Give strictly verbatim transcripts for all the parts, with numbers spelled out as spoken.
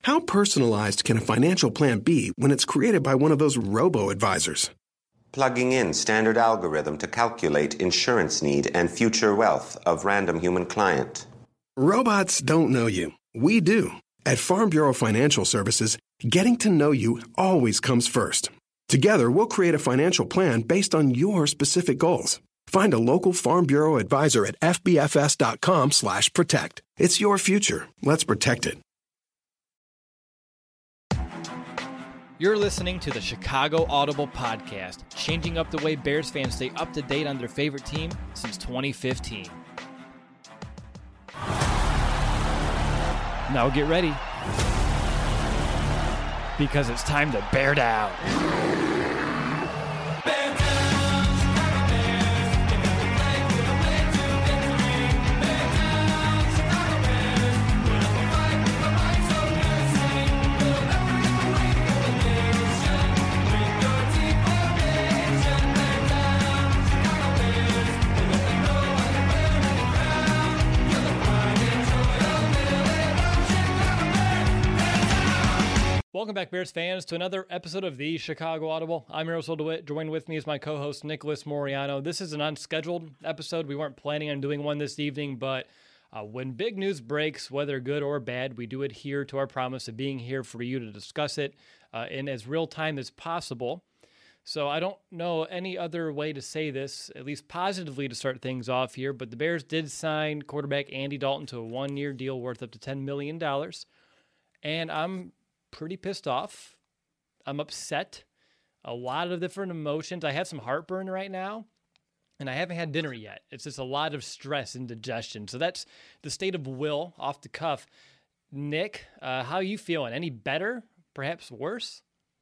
How personalized can a financial plan be when it's created by one of those robo-advisors? Plugging in standard algorithm to calculate insurance need and future wealth of random human client. Robots don't know you. We do. At Farm Bureau Financial Services, getting to know you always comes first. Together, we'll create a financial plan based on your specific goals. Find a local Farm Bureau advisor at fbfs.com slash protect. It's your future. Let's protect it. You're listening to the Chicago Audible Podcast, changing up the way Bears fans stay up to date on their favorite team since twenty fifteen. Now get ready, because it's time to bear down. Welcome back, Bears fans, to another episode of the Chicago Audible. I'm Russell DeWitt. Joined with me is my co-host, Nicholas Moriano. This is an unscheduled episode. We weren't planning on doing one this evening, but uh, when big news breaks, whether good or bad, we do adhere to our promise of being here for you to discuss it uh, in as real time as possible. So I don't know any other way to say this, at least positively to start things off here, but the Bears did sign quarterback Andy Dalton to a one-year deal worth up to ten million dollars, and I'm pretty pissed off. I'm upset. A lot of different emotions. I have some heartburn right now, and I haven't had dinner yet. It's just a lot of stress and digestion. So that's the state of Will off the cuff. Nick, uh, how are you feeling? Any better? Perhaps worse?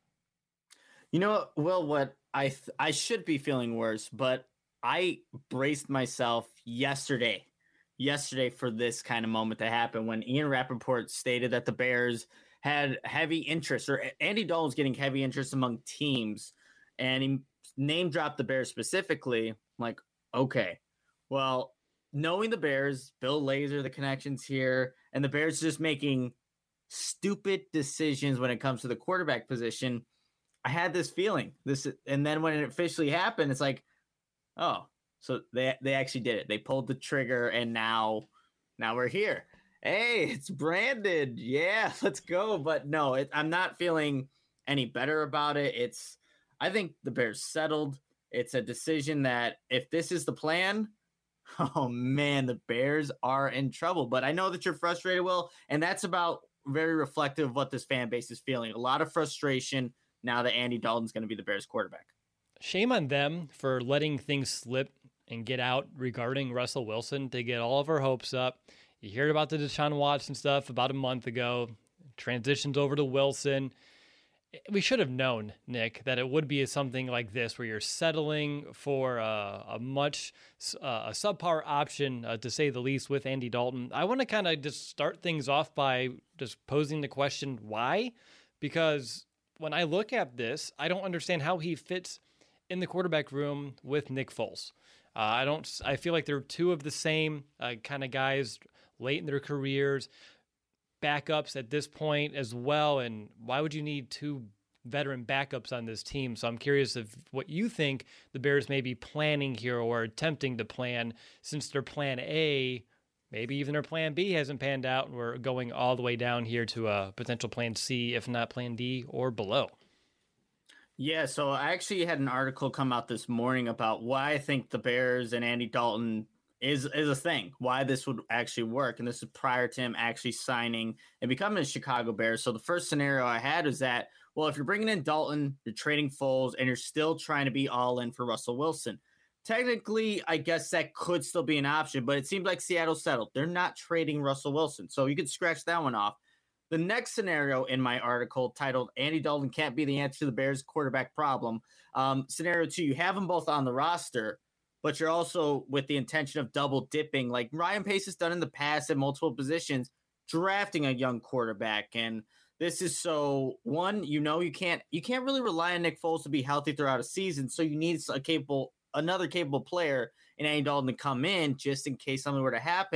You know, Will, what I th- I should be feeling worse, but I braced myself yesterday, yesterday for this kind of moment to happen when Ian Rappaport stated that the Bears had heavy interest, or Andy Dalton's getting heavy interest among teams, and he name dropped the Bears specifically. I'm like, okay, well, knowing the Bears, Bill Lazor, the connections here, and the Bears just making stupid decisions when it comes to the quarterback position, I had this feeling. This, and then when it officially happened, it's like, oh, so they they actually did it. They pulled the trigger, and now, now we're here. Hey, it's branded. Yeah, let's go. But no, it, I'm not feeling any better about it. It's, I think the Bears settled. It's a decision that if this is the plan, oh man, the Bears are in trouble. But I know that you're frustrated, Will, and that's about very reflective of what this fan base is feeling. A lot of frustration now that Andy Dalton's going to be the Bears quarterback. Shame on them for letting things slip and get out regarding Russell Wilson to get all of our hopes up. You heard about the Deshaun Watson stuff about a month ago, transitions over to Wilson. We should have known, Nick, that it would be something like this where you're settling for a, a much uh, a subpar option, uh, to say the least, with Andy Dalton. I want to kind of just start things off by just posing the question, why? Because when I look at this, I don't understand how he fits in the quarterback room with Nick Foles. Uh, I don't. I feel like they're two of the same uh, kind of guys late in their careers, backups at this point as well. And why would you need two veteran backups on this team? So I'm curious of what you think the Bears may be planning here or attempting to plan, since their plan A, maybe even their plan B hasn't panned out, and we're going all the way down here to a potential plan C, if not plan D or below. Yeah, so I actually had an article come out this morning about why I think the Bears and Andy Dalton is is a thing, why this would actually work. And this is prior to him actually signing and becoming a Chicago Bear. So the first scenario I had is that, well, if you're bringing in Dalton, you're trading Foles, and you're still trying to be all in for Russell Wilson. Technically, I guess that could still be an option, but it seems like Seattle settled. They're not trading Russell Wilson. So you could scratch that one off. The next scenario in my article titled Andy Dalton Can't Be the Answer to the Bears Quarterback Problem. Um, scenario two, you have them both on the roster, but you're also with the intention of double dipping like Ryan Pace has done in the past at multiple positions, drafting a young quarterback. And this is so, one, you know, you can't you can't really rely on Nick Foles to be healthy throughout a season. So you need a capable, another capable player in Andy Dalton to come in just in case something were to happen.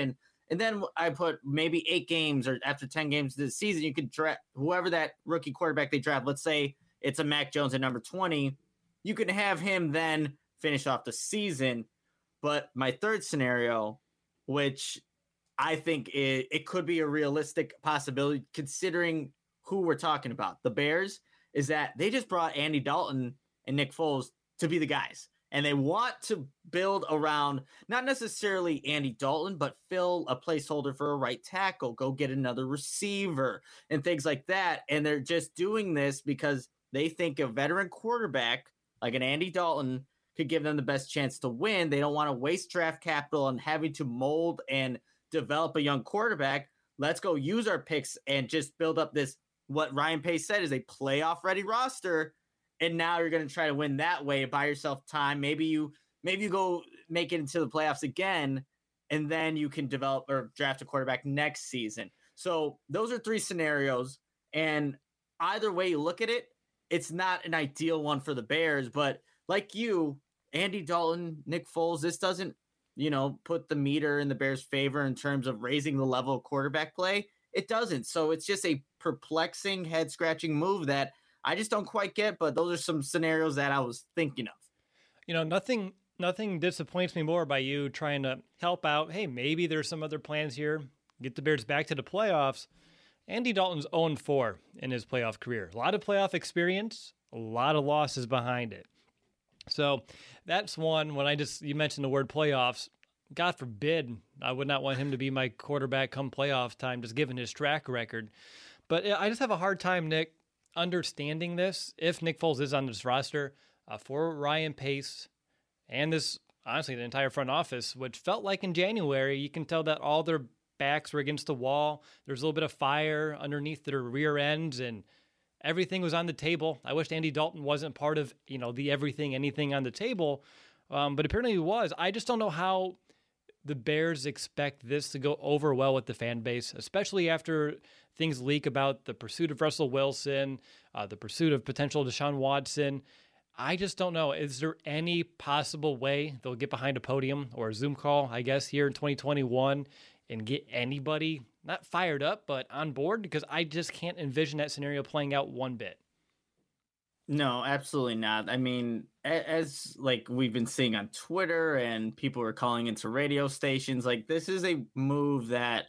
And then I put maybe eight games or after ten games this season, you could draft whoever that rookie quarterback they draft. Let's say it's a Mac Jones at number twenty. You can have him then finish off the season. But my third scenario, which I think it, it could be a realistic possibility considering who we're talking about, the Bears, is that they just brought Andy Dalton and Nick Foles to be the guys. And they want to build around not necessarily Andy Dalton, but fill a placeholder for a right tackle, go get another receiver and things like that. And they're just doing this because they think a veteran quarterback like an Andy Dalton could give them the best chance to win. They don't want to waste draft capital on having to mold and develop a young quarterback. Let's go use our picks and just build up this, what Ryan Pace said is a playoff ready roster. And now you're going to try to win that way, buy yourself time. Maybe you maybe you go make it into the playoffs again, and then you can develop or draft a quarterback next season. So those are three scenarios. And either way you look at it, it's not an ideal one for the Bears. But like you, Andy Dalton, Nick Foles, this doesn't, you know, put the meter in the Bears' favor in terms of raising the level of quarterback play. It doesn't. So it's just a perplexing, head-scratching move that I just don't quite get, but those are some scenarios that I was thinking of. You know, nothing nothing disappoints me more by you trying to help out. Hey, maybe there's some other plans here. Get the Bears back to the playoffs. Andy Dalton's oh and four in his playoff career. A lot of playoff experience, a lot of losses behind it. So that's one. When I just, you mentioned the word playoffs, God forbid, I would not want him to be my quarterback come playoff time, just given his track record. But I just have a hard time, Nick, understanding this, if Nick Foles is on this roster, uh, for Ryan Pace and this, honestly, the entire front office, which felt like in January, you can tell that all their backs were against the wall. There's a little bit of fire underneath their rear ends, and everything was on the table. I wished Andy Dalton wasn't part of, you know, the everything, anything on the table, um, but apparently he was. I just don't know how the Bears expect this to go over well with the fan base, especially after things leak about the pursuit of Russell Wilson, uh, the pursuit of potential Deshaun Watson. I just don't know. Is there any possible way they'll get behind a podium or a Zoom call, I guess, here in twenty twenty-one and get anybody not fired up, but on board? Because I just can't envision that scenario playing out one bit. No, absolutely not. I mean, as like we've been seeing on Twitter and people are calling into radio stations, like this is a move that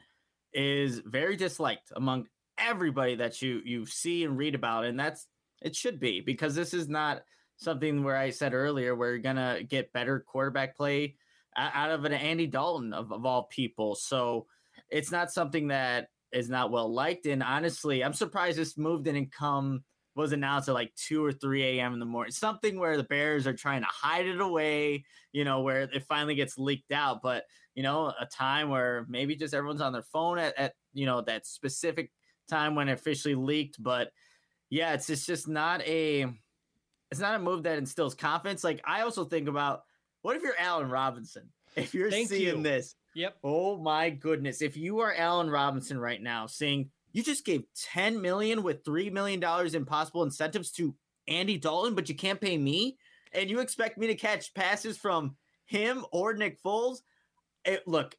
is very disliked among everybody that you you see and read about. And that's, it should be, because this is not something where I said earlier, where you're going to get better quarterback play out of an Andy Dalton of, of all people. So it's not something that is not well liked. And honestly, I'm surprised this move didn't come, was announced at like two or three a.m. in the morning, something where the Bears are trying to hide it away, you know, where it finally gets leaked out. But, you know, a time where maybe just everyone's on their phone at, at you know, that specific time when it officially leaked. But yeah, it's, it's just not a, it's not a move that instills confidence. Like I also think about, what if you're Allen Robinson? If you're Thank seeing you. this, Yep. Oh my goodness. If you are Allen Robinson right now seeing, you just gave ten million dollars with three million dollars in possible incentives to Andy Dalton, but you can't pay me, and you expect me to catch passes from him or Nick Foles. It, look,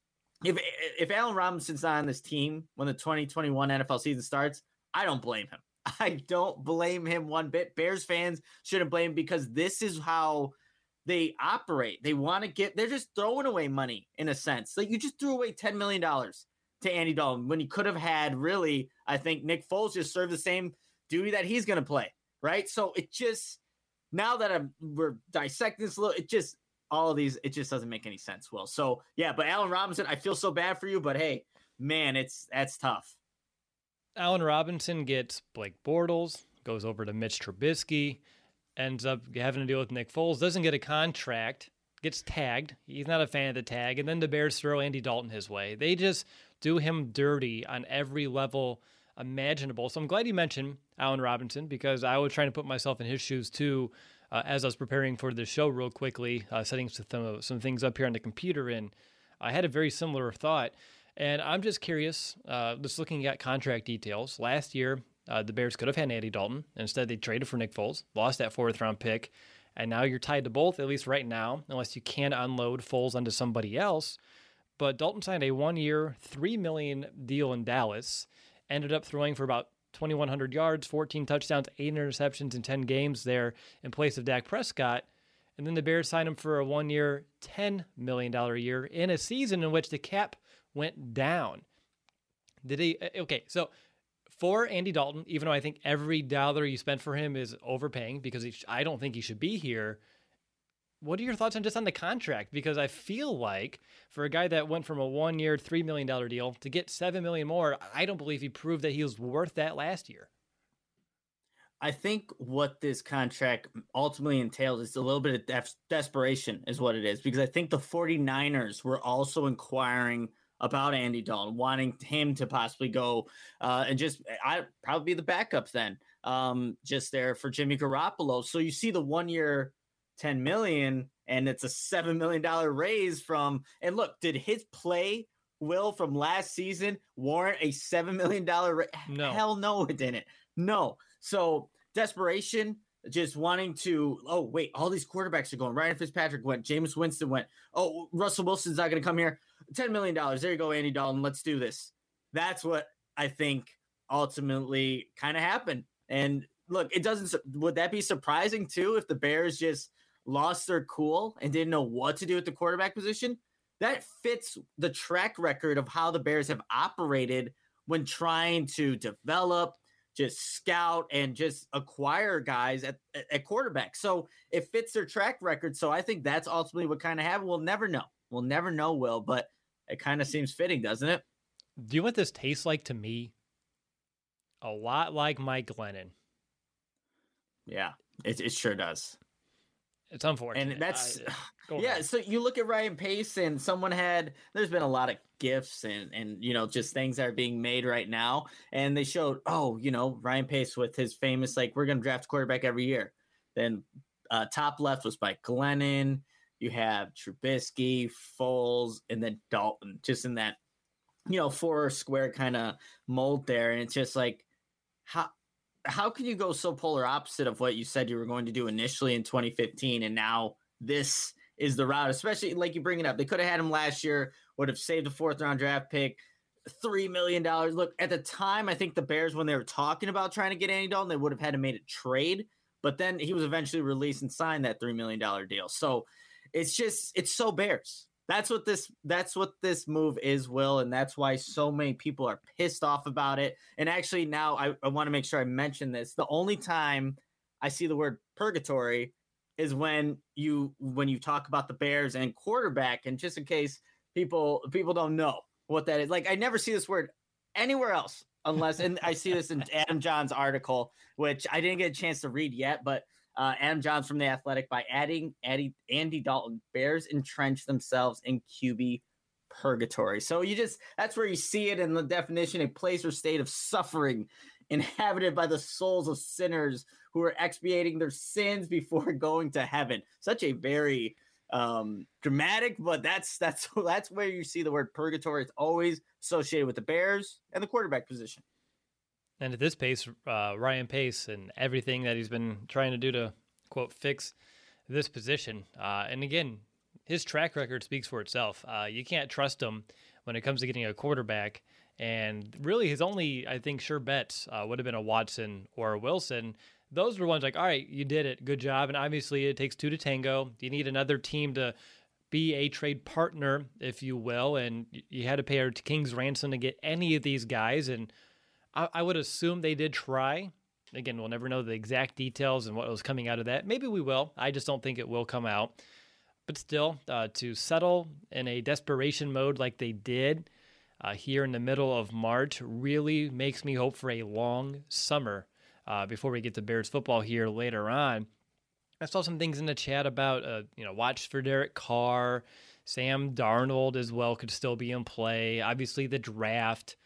if if Allen Robinson's not on this team when the twenty twenty-one N F L season starts, I don't blame him. I don't blame him one bit. Bears fans shouldn't blame him, because this is how they operate. They want to get, they're just throwing away money in a sense. Like you just threw away ten million dollars to Andy Dalton when you could have had, really, I think Nick Foles just served the same duty that he's going to play, right? So it just, now that I'm, we're dissecting this a little, it just, all of these, it just doesn't make any sense, Will. So yeah, but Allen Robinson, I feel so bad for you, but hey, man, it's, that's tough. Allen Robinson gets Blake Bortles, goes over to Mitch Trubisky, ends up having to deal with Nick Foles, doesn't get a contract, gets tagged. He's not a fan of the tag. And then the Bears throw Andy Dalton his way. They just do him dirty on every level imaginable. So I'm glad you mentioned Allen Robinson, because I was trying to put myself in his shoes too, uh, as I was preparing for the show real quickly, uh, setting some, some things up here on the computer. And I had a very similar thought. And I'm just curious, uh, just looking at contract details. Last year, uh, the Bears could have had Andy Dalton. Instead, they traded for Nick Foles, lost that fourth round pick. And now you're tied to both, at least right now, unless you can unload Foles onto somebody else. but Dalton signed a one-year, three million dollars deal in Dallas, ended up throwing for about twenty-one hundred yards, fourteen touchdowns, eight interceptions in ten games there in place of Dak Prescott. And then the Bears signed him for a one-year, ten million dollars a year in a season in which the cap went down. Did he? Okay, so for Andy Dalton, even though I think every dollar you spent for him is overpaying because he, I don't think he should be here, what are your thoughts on just on the contract? Because I feel like for a guy that went from a one-year, three million dollars deal to get seven million dollars more, I don't believe he proved that he was worth that last year. I think what this contract ultimately entails is a little bit of def- desperation is what it is, because I think the 49ers were also inquiring about Andy Dalton, wanting him to possibly go uh, and just I probably be the backup then um, just there for Jimmy Garoppolo. So you see the one year ten million and it's a seven million dollars raise from, and look, did his play Will from last season warrant a seven million dollars raise? No. Hell no, it didn't. No. So desperation, just wanting to, oh, wait, all these quarterbacks are going. Ryan Fitzpatrick went. Jameis Winston went. Oh, Russell Wilson's not going to come here. ten million dollars. There you go, Andy Dalton. Let's do this. That's what I think ultimately kind of happened. And look, it doesn't, would that be surprising too if the Bears just lost their cool and didn't know what to do at the quarterback position? That fits the track record of how the Bears have operated when trying to develop, just scout, and just acquire guys at, at quarterback. So it fits their track record. So I think that's ultimately what kind of happened. We'll never know. We'll never know, Will, but it kind of seems fitting, doesn't it? Do you know what this tastes like to me? A lot like Mike Glennon. Yeah, it, it sure does. It's unfortunate. And that's, I, yeah, ahead. so you look at Ryan Pace, and someone had, there's been a lot of gifts and, and, you know, just things that are being made right now. And they showed, oh, you know, Ryan Pace with his famous, like, we're going to draft a quarterback every year. Then uh, top left was by Glennon. You have Trubisky, Foles, and then Dalton, just in that, you know, four square kind of mold there. And it's just like, how, how can you go so polar opposite of what you said you were going to do initially in twenty fifteen? And now this is the route, especially like you bring it up. They could have had him last year, would have saved a fourth round draft pick, three million dollars. Look, at the time, I think the Bears, when they were talking about trying to get Andy Dalton, they would have had to made a trade, but then he was eventually released and signed that three million dollars deal. So it's just, it's so Bears. That's what this, that's what this move is, Will. And that's why so many people are pissed off about it. And actually now I, I want to make sure I mention this. The only time I see the word purgatory is when you, when you talk about the Bears and quarterback. And just in case people, people don't know what that is, like, I never see this word anywhere else unless, and I see this in Adam John's article, which I didn't get a chance to read yet, but Uh, Adam Johns from The Athletic, by adding Andy, Andy Dalton, Bears entrench themselves in Q B purgatory. So you just, that's where you see it in the definition, a place or state of suffering inhabited by the souls of sinners who are expiating their sins before going to heaven. Such a very um, dramatic, but that's, that's, that's where you see the word purgatory. It's always associated with the Bears and the quarterback position. And at this pace, uh, Ryan Pace and everything that he's been trying to do to, quote, fix this position. Uh, and again, his track record speaks for itself. Uh, you can't trust him when it comes to getting a quarterback. And really, his only, I think, sure bets uh, would have been a Watson or a Wilson. Those were ones like, all right, you did it. Good job. And obviously, it takes two to tango. You need another team to be a trade partner, if you will. And you had to pay a king's ransom to get any of these guys. And I would assume they did try. Again, we'll never know the exact details and what was coming out of that. Maybe we will. I just don't think it will come out. But still, uh, to settle in a desperation mode like they did uh, here in the middle of March really makes me hope for a long summer uh, before we get to Bears football here later on. I saw some things in the chat about, uh, you know, watch for Derek Carr. Sam Darnold as well could still be in play. Obviously, the draft.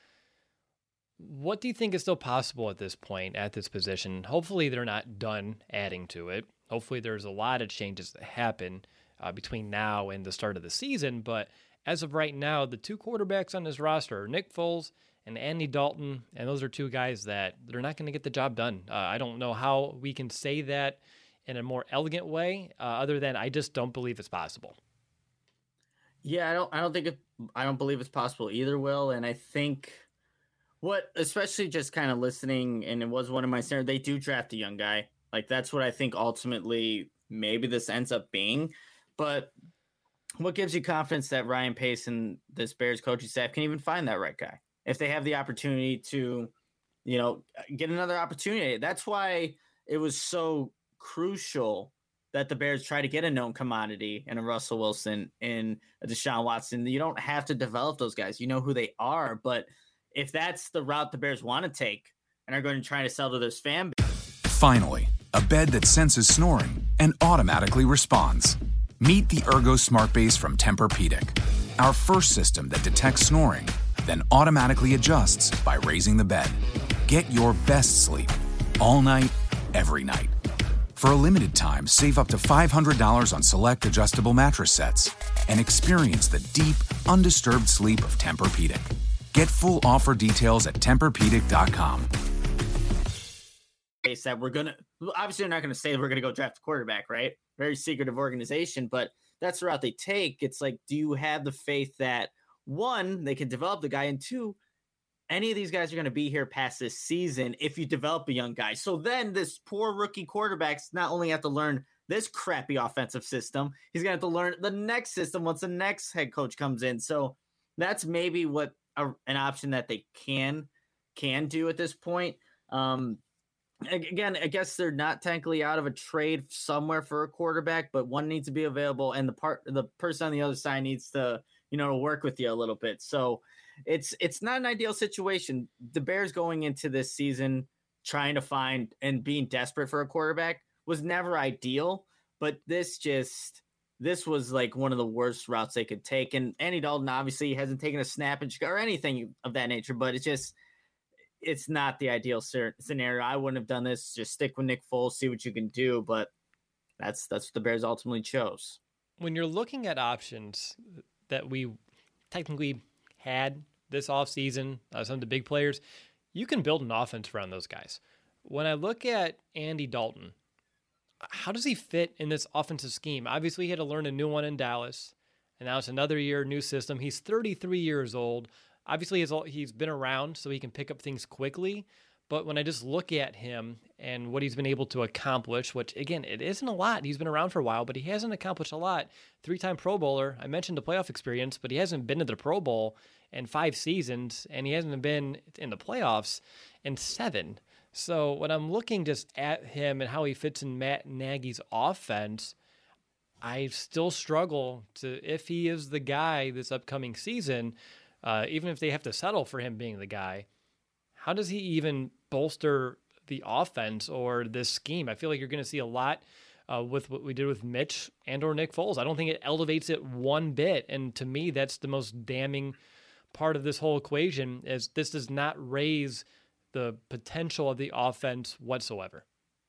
What do you think is still possible at this point at this position? Hopefully they're not done adding to it. Hopefully there's a lot of changes that happen uh, between now and the start of the season. But as of right now, the two quarterbacks on this roster are Nick Foles and Andy Dalton, and those are two guys that they're not going to get the job done. Uh, I don't know how we can say that in a more elegant way uh, other than I just don't believe it's possible. Yeah, I don't I don't think it I don't believe it's possible either, Will. And I think what especially just kind of listening, and it was one of my scenarios, they do draft a young guy. Like that's what I think ultimately maybe this ends up being. But what gives you confidence that Ryan Pace and this Bears coaching staff can even find that right guy if they have the opportunity to, you know, get another opportunity? That's why it was so crucial that the Bears try to get a known commodity and a Russell Wilson and a Deshaun Watson. You don't have to develop those guys. You know who they are. But if that's the route the Bears want to take and are going to try to sell to this fan base. Finally, a bed that senses snoring and automatically responds. Meet the Ergo Smart Base from Tempur-Pedic, our first system that detects snoring, then automatically adjusts by raising the bed. Get your best sleep all night, every night. For a limited time, save up to five hundred dollars on select adjustable mattress sets and experience the deep, undisturbed sleep of Tempur-Pedic. Get full offer details at Tempur Pedic dot com. That we're gonna obviously we're not gonna say we're gonna go draft a quarterback, right? Very secretive organization, but that's the route they take. It's like, do you have the faith that one, they can develop the guy, and two, any of these guys are going to be here past this season if you develop a young guy? So then this poor rookie quarterback's not only have to learn this crappy offensive system, he's going to have to learn the next system once the next head coach comes in. So that's maybe what a, an option that they can can do at this point. Um, again, I guess they're not technically out of a trade somewhere for a quarterback, but one needs to be available, and the part the person on the other side needs to, you know, work with you a little bit. So it's it's not an ideal situation. The Bears going into this season trying to find and being desperate for a quarterback was never ideal, but this just this was like one of the worst routes they could take. And Andy Dalton obviously hasn't taken a snap or anything of that nature, but it's just it's not the ideal scenario. I wouldn't have done this. Just stick with Nick Foles, see what you can do. But that's that's what the Bears ultimately chose. When you're looking at options that we technically had this offseason, uh, some of the big players, you can build an offense around those guys. When I look at Andy Dalton, how does he fit in this offensive scheme? Obviously, he had to learn a new one in Dallas, and now it's another year, new system. He's thirty-three years old. Obviously, he's been around, so he can pick up things quickly. But when I just look at him and what he's been able to accomplish, which, again, it isn't a lot. He's been around for a while, but he hasn't accomplished a lot. Three-time Pro Bowler. I mentioned the playoff experience, but he hasn't been to the Pro Bowl in five seasons, and he hasn't been in the playoffs in seven. So when I'm looking just at him and how he fits in Matt Nagy's offense, I still struggle to, if he is the guy this upcoming season, uh, even if they have to settle for him being the guy, how does he even bolster the offense or this scheme? I feel like you're going to see a lot uh, with what we did with Mitch and or Nick Foles. I don't think it elevates it one bit. And to me, that's the most damning part of this whole equation, is this does not raise the potential of the offense whatsoever.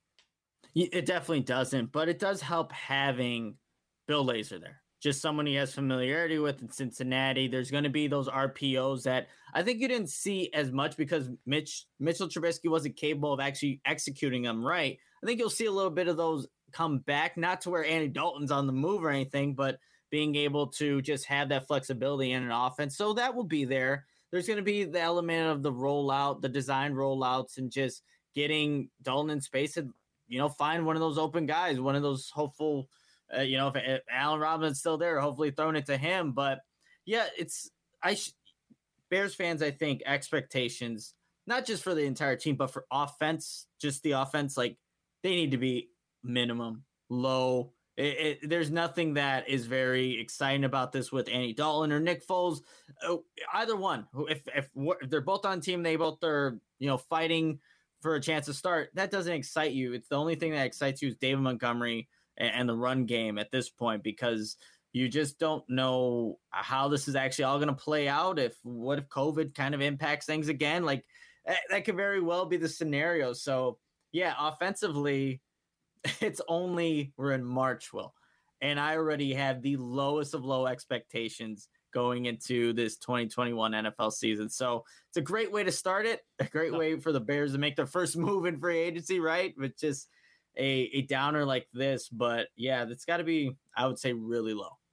It definitely doesn't, but it does help having Bill Lazor there. Just someone he has familiarity with in Cincinnati. There's going to be those R P Os that I think you didn't see as much because Mitch Mitchell Trubisky wasn't capable of actually executing them right. I think you'll see a little bit of those come back, not to where Andy Dalton's on the move or anything, but being able to just have that flexibility in an offense. So that will be there. There's going to be the element of the rollout, the design rollouts, and just getting Dalton in space and, you know, find one of those open guys, one of those hopeful, uh, you know, if, if Allen Robinson's still there, hopefully throwing it to him. But yeah, it's I sh- Bears fans, I think expectations, not just for the entire team, but for offense, just the offense, like they need to be minimum low. It, it, there's nothing that is very exciting about this with Andy Dalton or Nick Foles. Oh, either one. If, if if they're both on team, they both are, you know, fighting for a chance to start. That doesn't excite you. It's the only thing that excites you is David Montgomery and, and the run game at this point, because you just don't know how this is actually all going to play out. If what if COVID kind of impacts things again? Like that, that could very well be the scenario. So yeah, offensively, it's only we're in March, Will, and I already have the lowest of low expectations going into this twenty twenty-one N F L season. So it's a great way to start it. A great way for the Bears to make their first move in free agency, right? With just a, a downer like this. But yeah, that's got to be, I would say, really low.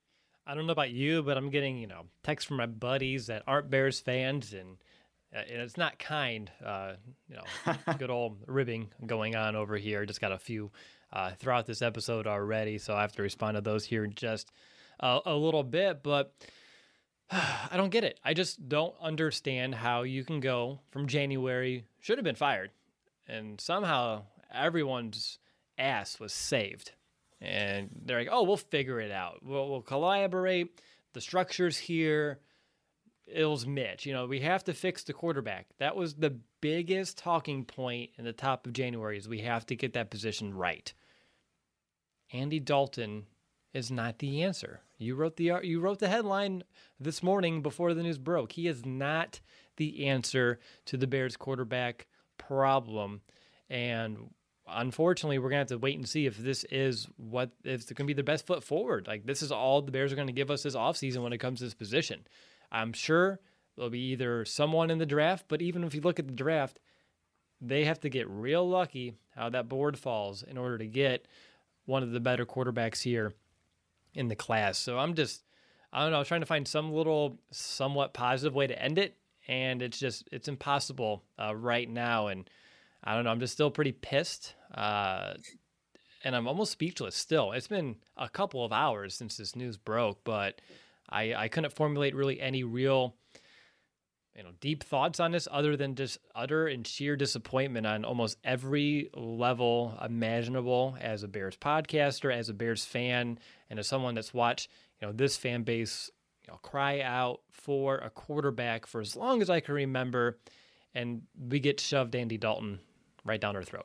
I don't know about you, but I'm getting, you know, texts from my buddies that aren't Bears fans, and, uh, and it's not kind. Uh, you know, good old ribbing going on over here. Just got a few uh, throughout this episode already, so I have to respond to those here in just uh, a little bit. But I don't get it. I just don't understand how you can go from January, should have been fired, and somehow everyone's ass was saved. And they're like, oh, we'll figure it out. We'll, we'll collaborate. The structure's here. It was Mitch. You know, we have to fix the quarterback. That was the biggest talking point in the top of January, is we have to get that position right. Andy Dalton is not the answer. You wrote the you wrote the headline this morning before the news broke. He is not the answer to the Bears quarterback problem. And unfortunately, we're going to have to wait and see if this is what, if it's going to be the best foot forward. Like, this is all the Bears are going to give us this offseason when it comes to this position. I'm sure there'll be either someone in the draft, but even if you look at the draft, they have to get real lucky how that board falls in order to get one of the better quarterbacks here in the class. So I'm just, I don't know, trying to find some little somewhat positive way to end it. And it's just, it's impossible uh, right now. And I don't know, I'm just still pretty pissed. Uh, and I'm almost speechless still. It's been a couple of hours since this news broke, but I, I couldn't formulate really any real, you know, deep thoughts on this other than just utter and sheer disappointment on almost every level imaginable as a Bears podcaster, as a Bears fan, and as someone that's watched, you know, this fan base, you know, cry out for a quarterback for as long as I can remember, and we get shoved Andy Dalton right down our throat.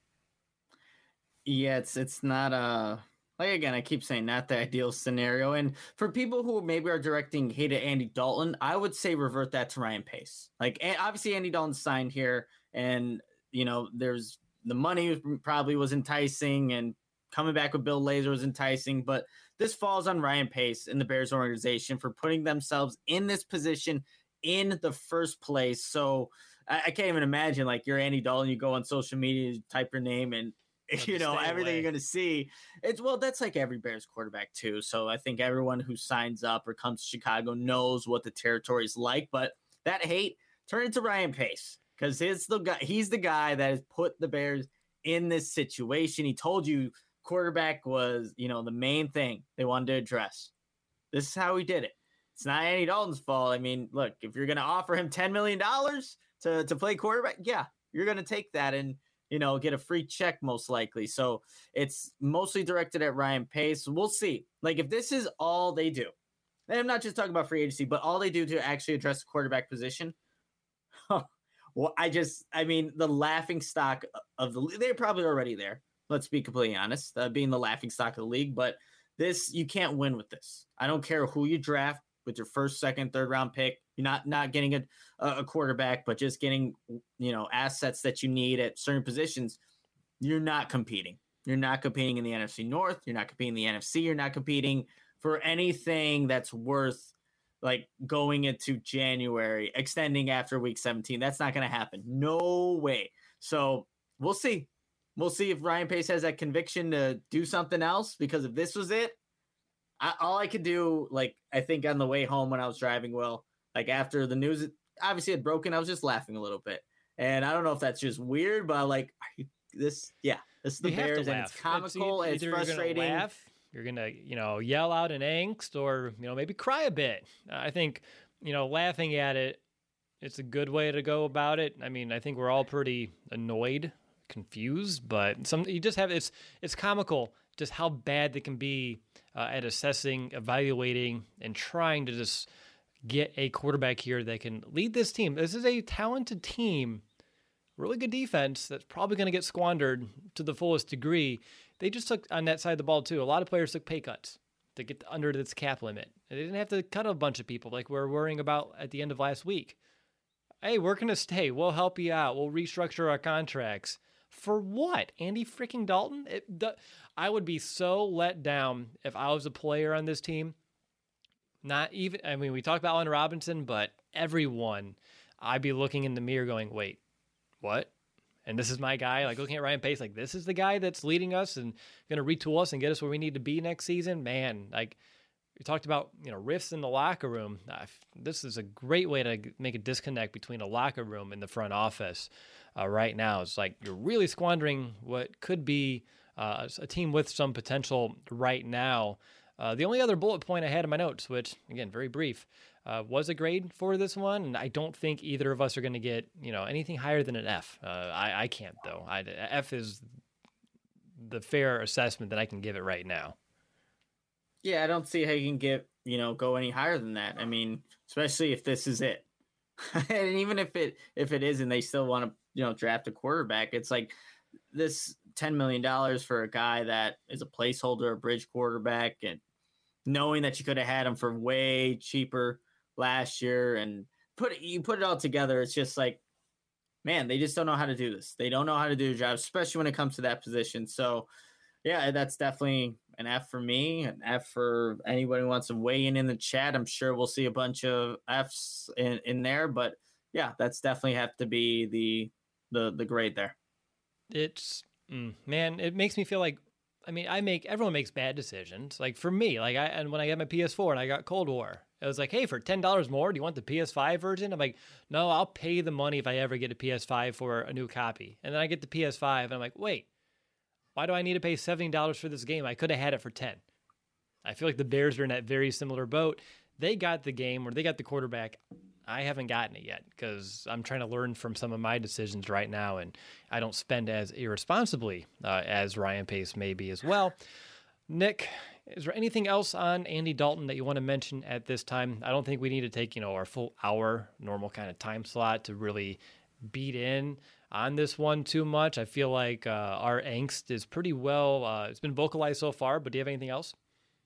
Yeah, it's it's not a, like, again, I keep saying not the ideal scenario. And for people who maybe are directing hate at Andy Dalton, I would say revert that to Ryan Pace. Like, obviously Andy Dalton signed here, and, you know, there's the money probably was enticing, and coming back with Bill Lazor was enticing, but this falls on Ryan Pace and the Bears organization for putting themselves in this position in the first place. So I, I can't even imagine, like, you're Andy Dalton, you go on social media, you type your name, and you know, everything away. You're going to see. It's, well, that's like every Bears quarterback too. So I think everyone who signs up or comes to Chicago knows what the territory is like, but that hate, turn it to Ryan Pace, because he's the guy, he's the guy that has put the Bears in this situation. He told you quarterback was, you know, the main thing they wanted to address. This is how he did it. It's not Andy Dalton's fault. I mean, look, if you're going to offer him ten million dollars to, to play quarterback, yeah, you're going to take that and, you know, get a free check most likely. So it's mostly directed at Ryan Pace. We'll see. Like, if this is all they do, and I'm not just talking about free agency, but all they do to actually address the quarterback position, well, I just, I mean, the laughing stock of the, they're probably already there. Let's be completely honest, uh, being the laughing stock of the league. But this, you can't win with this. I don't care who you draft with your first, second, third round pick. You're not not getting a, a quarterback, but just getting, you know, assets that you need at certain positions. You're not competing. You're not competing in the N F C North. You're not competing in the N F C. You're not competing for anything that's worth, like, going into January, extending after week seventeen. That's not going to happen. No way. So we'll see. We'll see if Ryan Pace has that conviction to do something else, because if this was it, I, all I could do, like, I think on the way home when I was driving, Will, like, after the news obviously had broken, I was just laughing a little bit. And I don't know if that's just weird, but, like, this, yeah, this is the you Bears, and it's comical, it's, it's frustrating. You're gonna laugh, you're going to, you know, yell out in angst, or, you know, maybe cry a bit. I think, you know, laughing at it, it's a good way to go about it. I mean, I think we're all pretty annoyed, confused, but some, you just have, it's, it's comical just how bad they can be uh, at assessing, evaluating, and trying to just get a quarterback here that can lead this team. This is a talented team, really good defense that's probably going to get squandered to the fullest degree. They just took on that side of the ball too. A lot of players took pay cuts to get under this cap limit. They didn't have to cut a bunch of people like we we're worrying about at the end of last week. Hey, we're going to stay. We'll help you out. We'll restructure our contracts. For what? Andy freaking Dalton? It, the, I would be so let down if I was a player on this team. Not even, I mean, we talked about Allen Robinson, but everyone, I'd be looking in the mirror going, wait, what? And this is my guy, like looking at Ryan Pace, like this is the guy that's leading us and going to retool us and get us where we need to be next season. Man, like We talked about, you know, rifts in the locker room. Uh, this is a great way to make a disconnect between a locker room and the front office uh, right now. It's like you're really squandering what could be uh, a team with some potential right now. Uh, the only other bullet point I had in my notes, which, again, very brief, uh, was a grade for this one. And I don't think either of us are going to get, you know, anything higher than an F. Uh, I, I can't, though. I, F is the fair assessment that I can give it right now. Yeah, I don't see how you can get, you know, go any higher than that. I mean, especially if this is it. And even if it if it isn't, they still want to, you know, draft a quarterback. It's like this ten million dollars for a guy that is a placeholder, a bridge quarterback, and knowing that you could have had him for way cheaper last year and put it, you put it all together. It's just like, man, they just don't know how to do this. They don't know how to do the job, especially when it comes to that position. So, yeah, that's definitely an F for me, an F for anybody who wants to weigh in in the chat. I'm sure we'll see a bunch of Fs in, in there, but yeah, that's definitely have to be the the the grade there. It's mm, man, it makes me feel like, I mean, I make everyone makes bad decisions. Like for me, like I and when I got my P S four and I got Cold War, it was like, hey, for ten dollars more, do you want the P S five version? I'm like, no, I'll pay the money if I ever get a P S five for a new copy. And then I get the P S five, and I'm like, wait. Why do I need to pay seventy dollars for this game? I could have had it for ten dollars. I feel like the Bears are in that very similar boat. They got the game, or they got the quarterback. I haven't gotten it yet because I'm trying to learn from some of my decisions right now, and I don't spend as irresponsibly uh, as Ryan Pace may be as well. Nick, is there anything else on Andy Dalton that you want to mention at this time? I don't think we need to take, you know, our full hour normal kind of time slot to really beat in on this one too much. I feel like uh, our angst is pretty well, uh, it's been vocalized so far, but do you have anything else?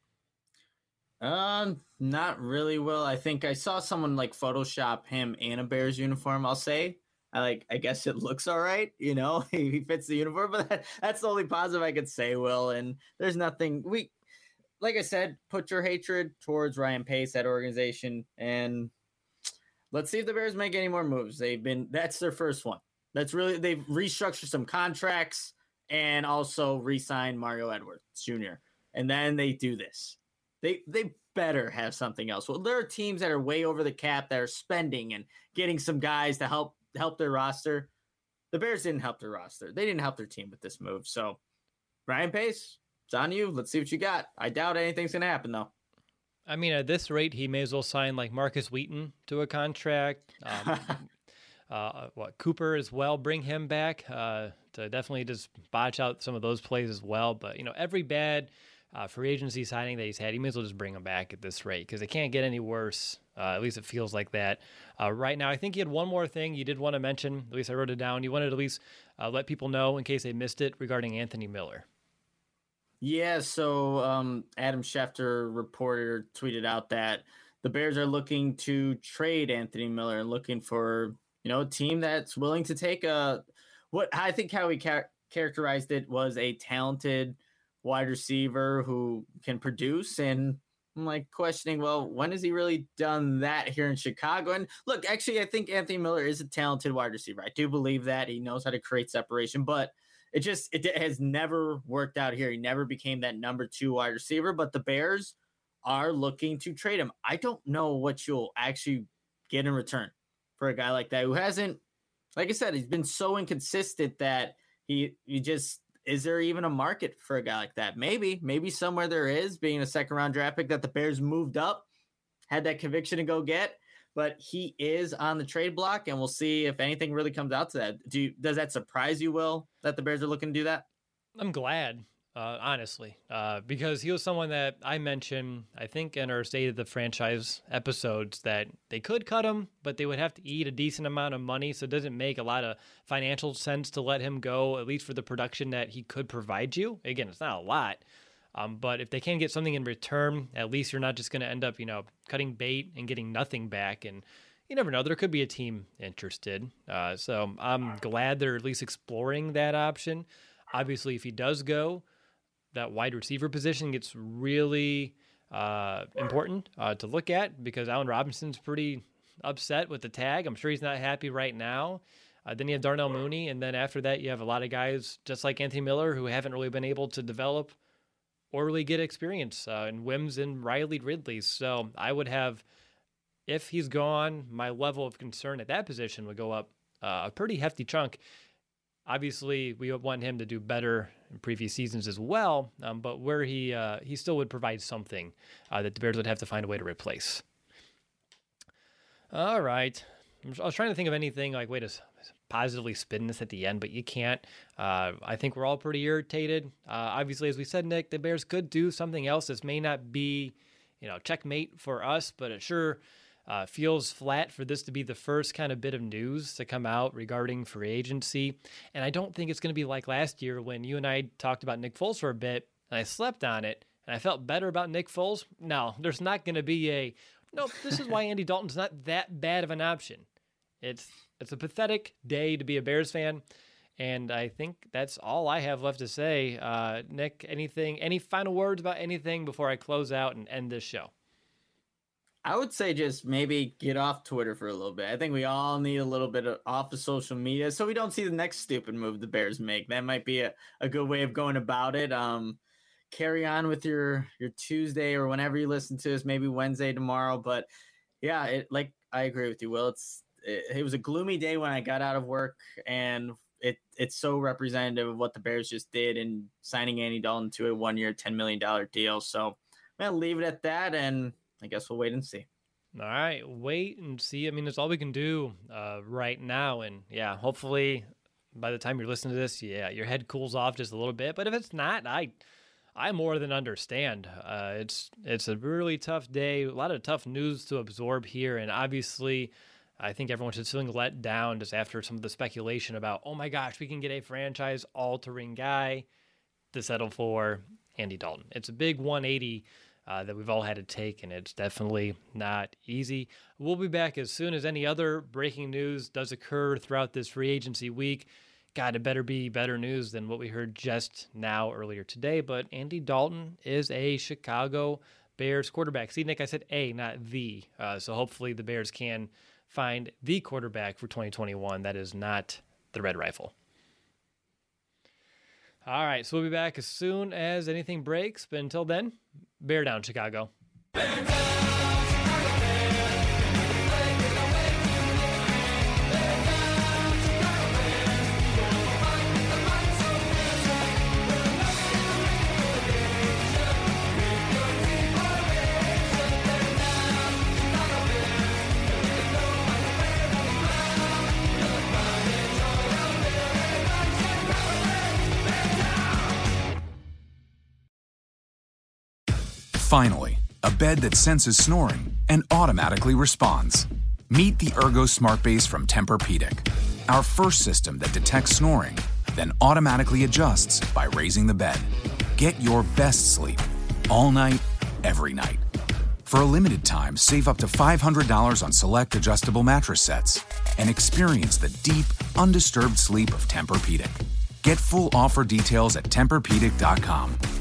Um, not really, Will. I think I saw someone like Photoshop him in a Bears uniform, I'll say. I like, I guess it looks all right, you know, he fits the uniform, but that, that's the only positive I could say, Will. And there's nothing, we, like I said, put your hatred towards Ryan Pace, that organization, and let's see if the Bears make any more moves. They've been, that's their first one. That's really, they've restructured some contracts and also re-signed Mario Edwards Junior And then they do this. They they better have something else. Well, there are teams that are way over the cap that are spending and getting some guys to help help their roster. The Bears didn't help their roster. They didn't help their team with this move. So, Ryan Pace, it's on you. Let's see what you got. I doubt anything's going to happen, though. I mean, at this rate, he may as well sign like Marcus Wheaton to a contract. Um, uh, what Cooper as well, bring him back uh, to definitely just botch out some of those plays as well. But, you know, every bad uh, free agency signing that he's had, he may as well just bring him back at this rate because it can't get any worse. Uh, at least it feels like that uh, right now. I think you had one more thing you did want to mention. At least I wrote it down. You wanted to at least uh, let people know in case they missed it regarding Anthony Miller. Yeah, so um, Adam Schefter reported or tweeted out that the Bears are looking to trade Anthony Miller and looking for, you know, a team that's willing to take a, what I think how he char- characterized it was a talented wide receiver who can produce. And I'm like questioning, well, when has he really done that here in Chicago? And look, actually, I think Anthony Miller is a talented wide receiver. I do believe that he knows how to create separation, but It just it has never worked out here. He never became that number two wide receiver, but the Bears are looking to trade him. I don't know what you'll actually get in return for a guy like that who hasn't, like I said, he's been so inconsistent that he, he just, is there even a market for a guy like that? Maybe, maybe somewhere there is, being a second round draft pick that the Bears moved up, had that conviction to go get. But he is on the trade block, and we'll see if anything really comes out to that. Do you, does that surprise you, Will, that the Bears are looking to do that? I'm glad, uh, honestly, uh, because he was someone that I mentioned, I think, in our State of the Franchise episodes, that they could cut him, but they would have to eat a decent amount of money, so it doesn't make a lot of financial sense to let him go, at least for the production that he could provide you. Again, it's not a lot. Um, but if they can get something in return, at least you're not just going to end up, you know, cutting bait and getting nothing back. And you never know, there could be a team interested. Uh, so I'm glad they're at least exploring that option. Obviously, if he does go, that wide receiver position gets really uh, important uh, to look at because Allen Robinson's pretty upset with the tag. I'm sure he's not happy right now. Uh, then you have Darnell Mooney. And then after that, you have a lot of guys just like Anthony Miller who haven't really been able to develop or really get experience uh, in Wims and Riley Ridley. So I would have, if he's gone, my level of concern at that position would go up uh, a pretty hefty chunk. Obviously, we want him to do better in previous seasons as well, um, but where he uh, he still would provide something uh, that the Bears would have to find a way to replace. All right. I was trying to think of anything like way to positively spin this at the end, but you can't. Uh, I think we're all pretty irritated. Uh, obviously, as we said, Nick, the Bears could do something else. This may not be, you know, checkmate for us, but it sure Uh, feels flat for this to be the first kind of bit of news to come out regarding free agency. And I don't think it's going to be like last year when you and I talked about Nick Foles for a bit and I slept on it and I felt better about Nick Foles. No, there's not going to be a, nope, this is why Andy Dalton's not that bad of an option. It's, it's a pathetic day to be a Bears fan. And I think that's all I have left to say. Uh, Nick, anything, any final words about anything before I close out and end this show? I would say just maybe get off Twitter for a little bit. I think we all need a little bit of off of social media so we don't see the next stupid move the Bears make. That might be a, a good way of going about it. Um, carry on with your, your Tuesday or whenever you listen to us, maybe Wednesday tomorrow. But yeah, it, like I agree with you, Will. It's it, it was a gloomy day when I got out of work, and it it's so representative of what the Bears just did in signing Andy Dalton to a one-year, ten million dollars deal. So I'm going to leave it at that, and I guess we'll wait and see. All right, wait and see. I mean, that's all we can do uh, right now. And yeah, hopefully by the time you're listening to this, yeah, your head cools off just a little bit. But if it's not, I I more than understand. Uh, it's it's a really tough day, a lot of tough news to absorb here. And obviously, I think everyone's just feeling let down just after some of the speculation about, oh my gosh, we can get a franchise-altering guy to settle for Andy Dalton. It's a big one eighty Uh, that we've all had to take, and it's definitely not easy. We'll be back as soon as any other breaking news does occur throughout this free agency week. God, it better be better news than what we heard just now earlier today, but Andy Dalton is a Chicago Bears quarterback. See, Nick, I said a, not the, uh, so hopefully the Bears can find the quarterback for twenty twenty-one that is not the Red Rifle. All right, so we'll be back as soon as anything breaks. But until then, bear down, Chicago. Bear down, Chicago Bears. Bear down, Chicago Bears. We'll fight the fight so fierce. We'll never relegation. With your team formation. Bear down, Chicago Bears. There's no one to wear the crown. We'll fight it all out there. Bear down, Chicago Bears. Bear down. Finally, a bed that senses snoring and automatically responds. Meet the Ergo Smart Base from Tempur-Pedic, our first system that detects snoring, then automatically adjusts by raising the bed. Get your best sleep all night, every night. For a limited time, save up to five hundred dollars on select adjustable mattress sets and experience the deep, undisturbed sleep of Tempur-Pedic. Get full offer details at Tempur Pedic dot com.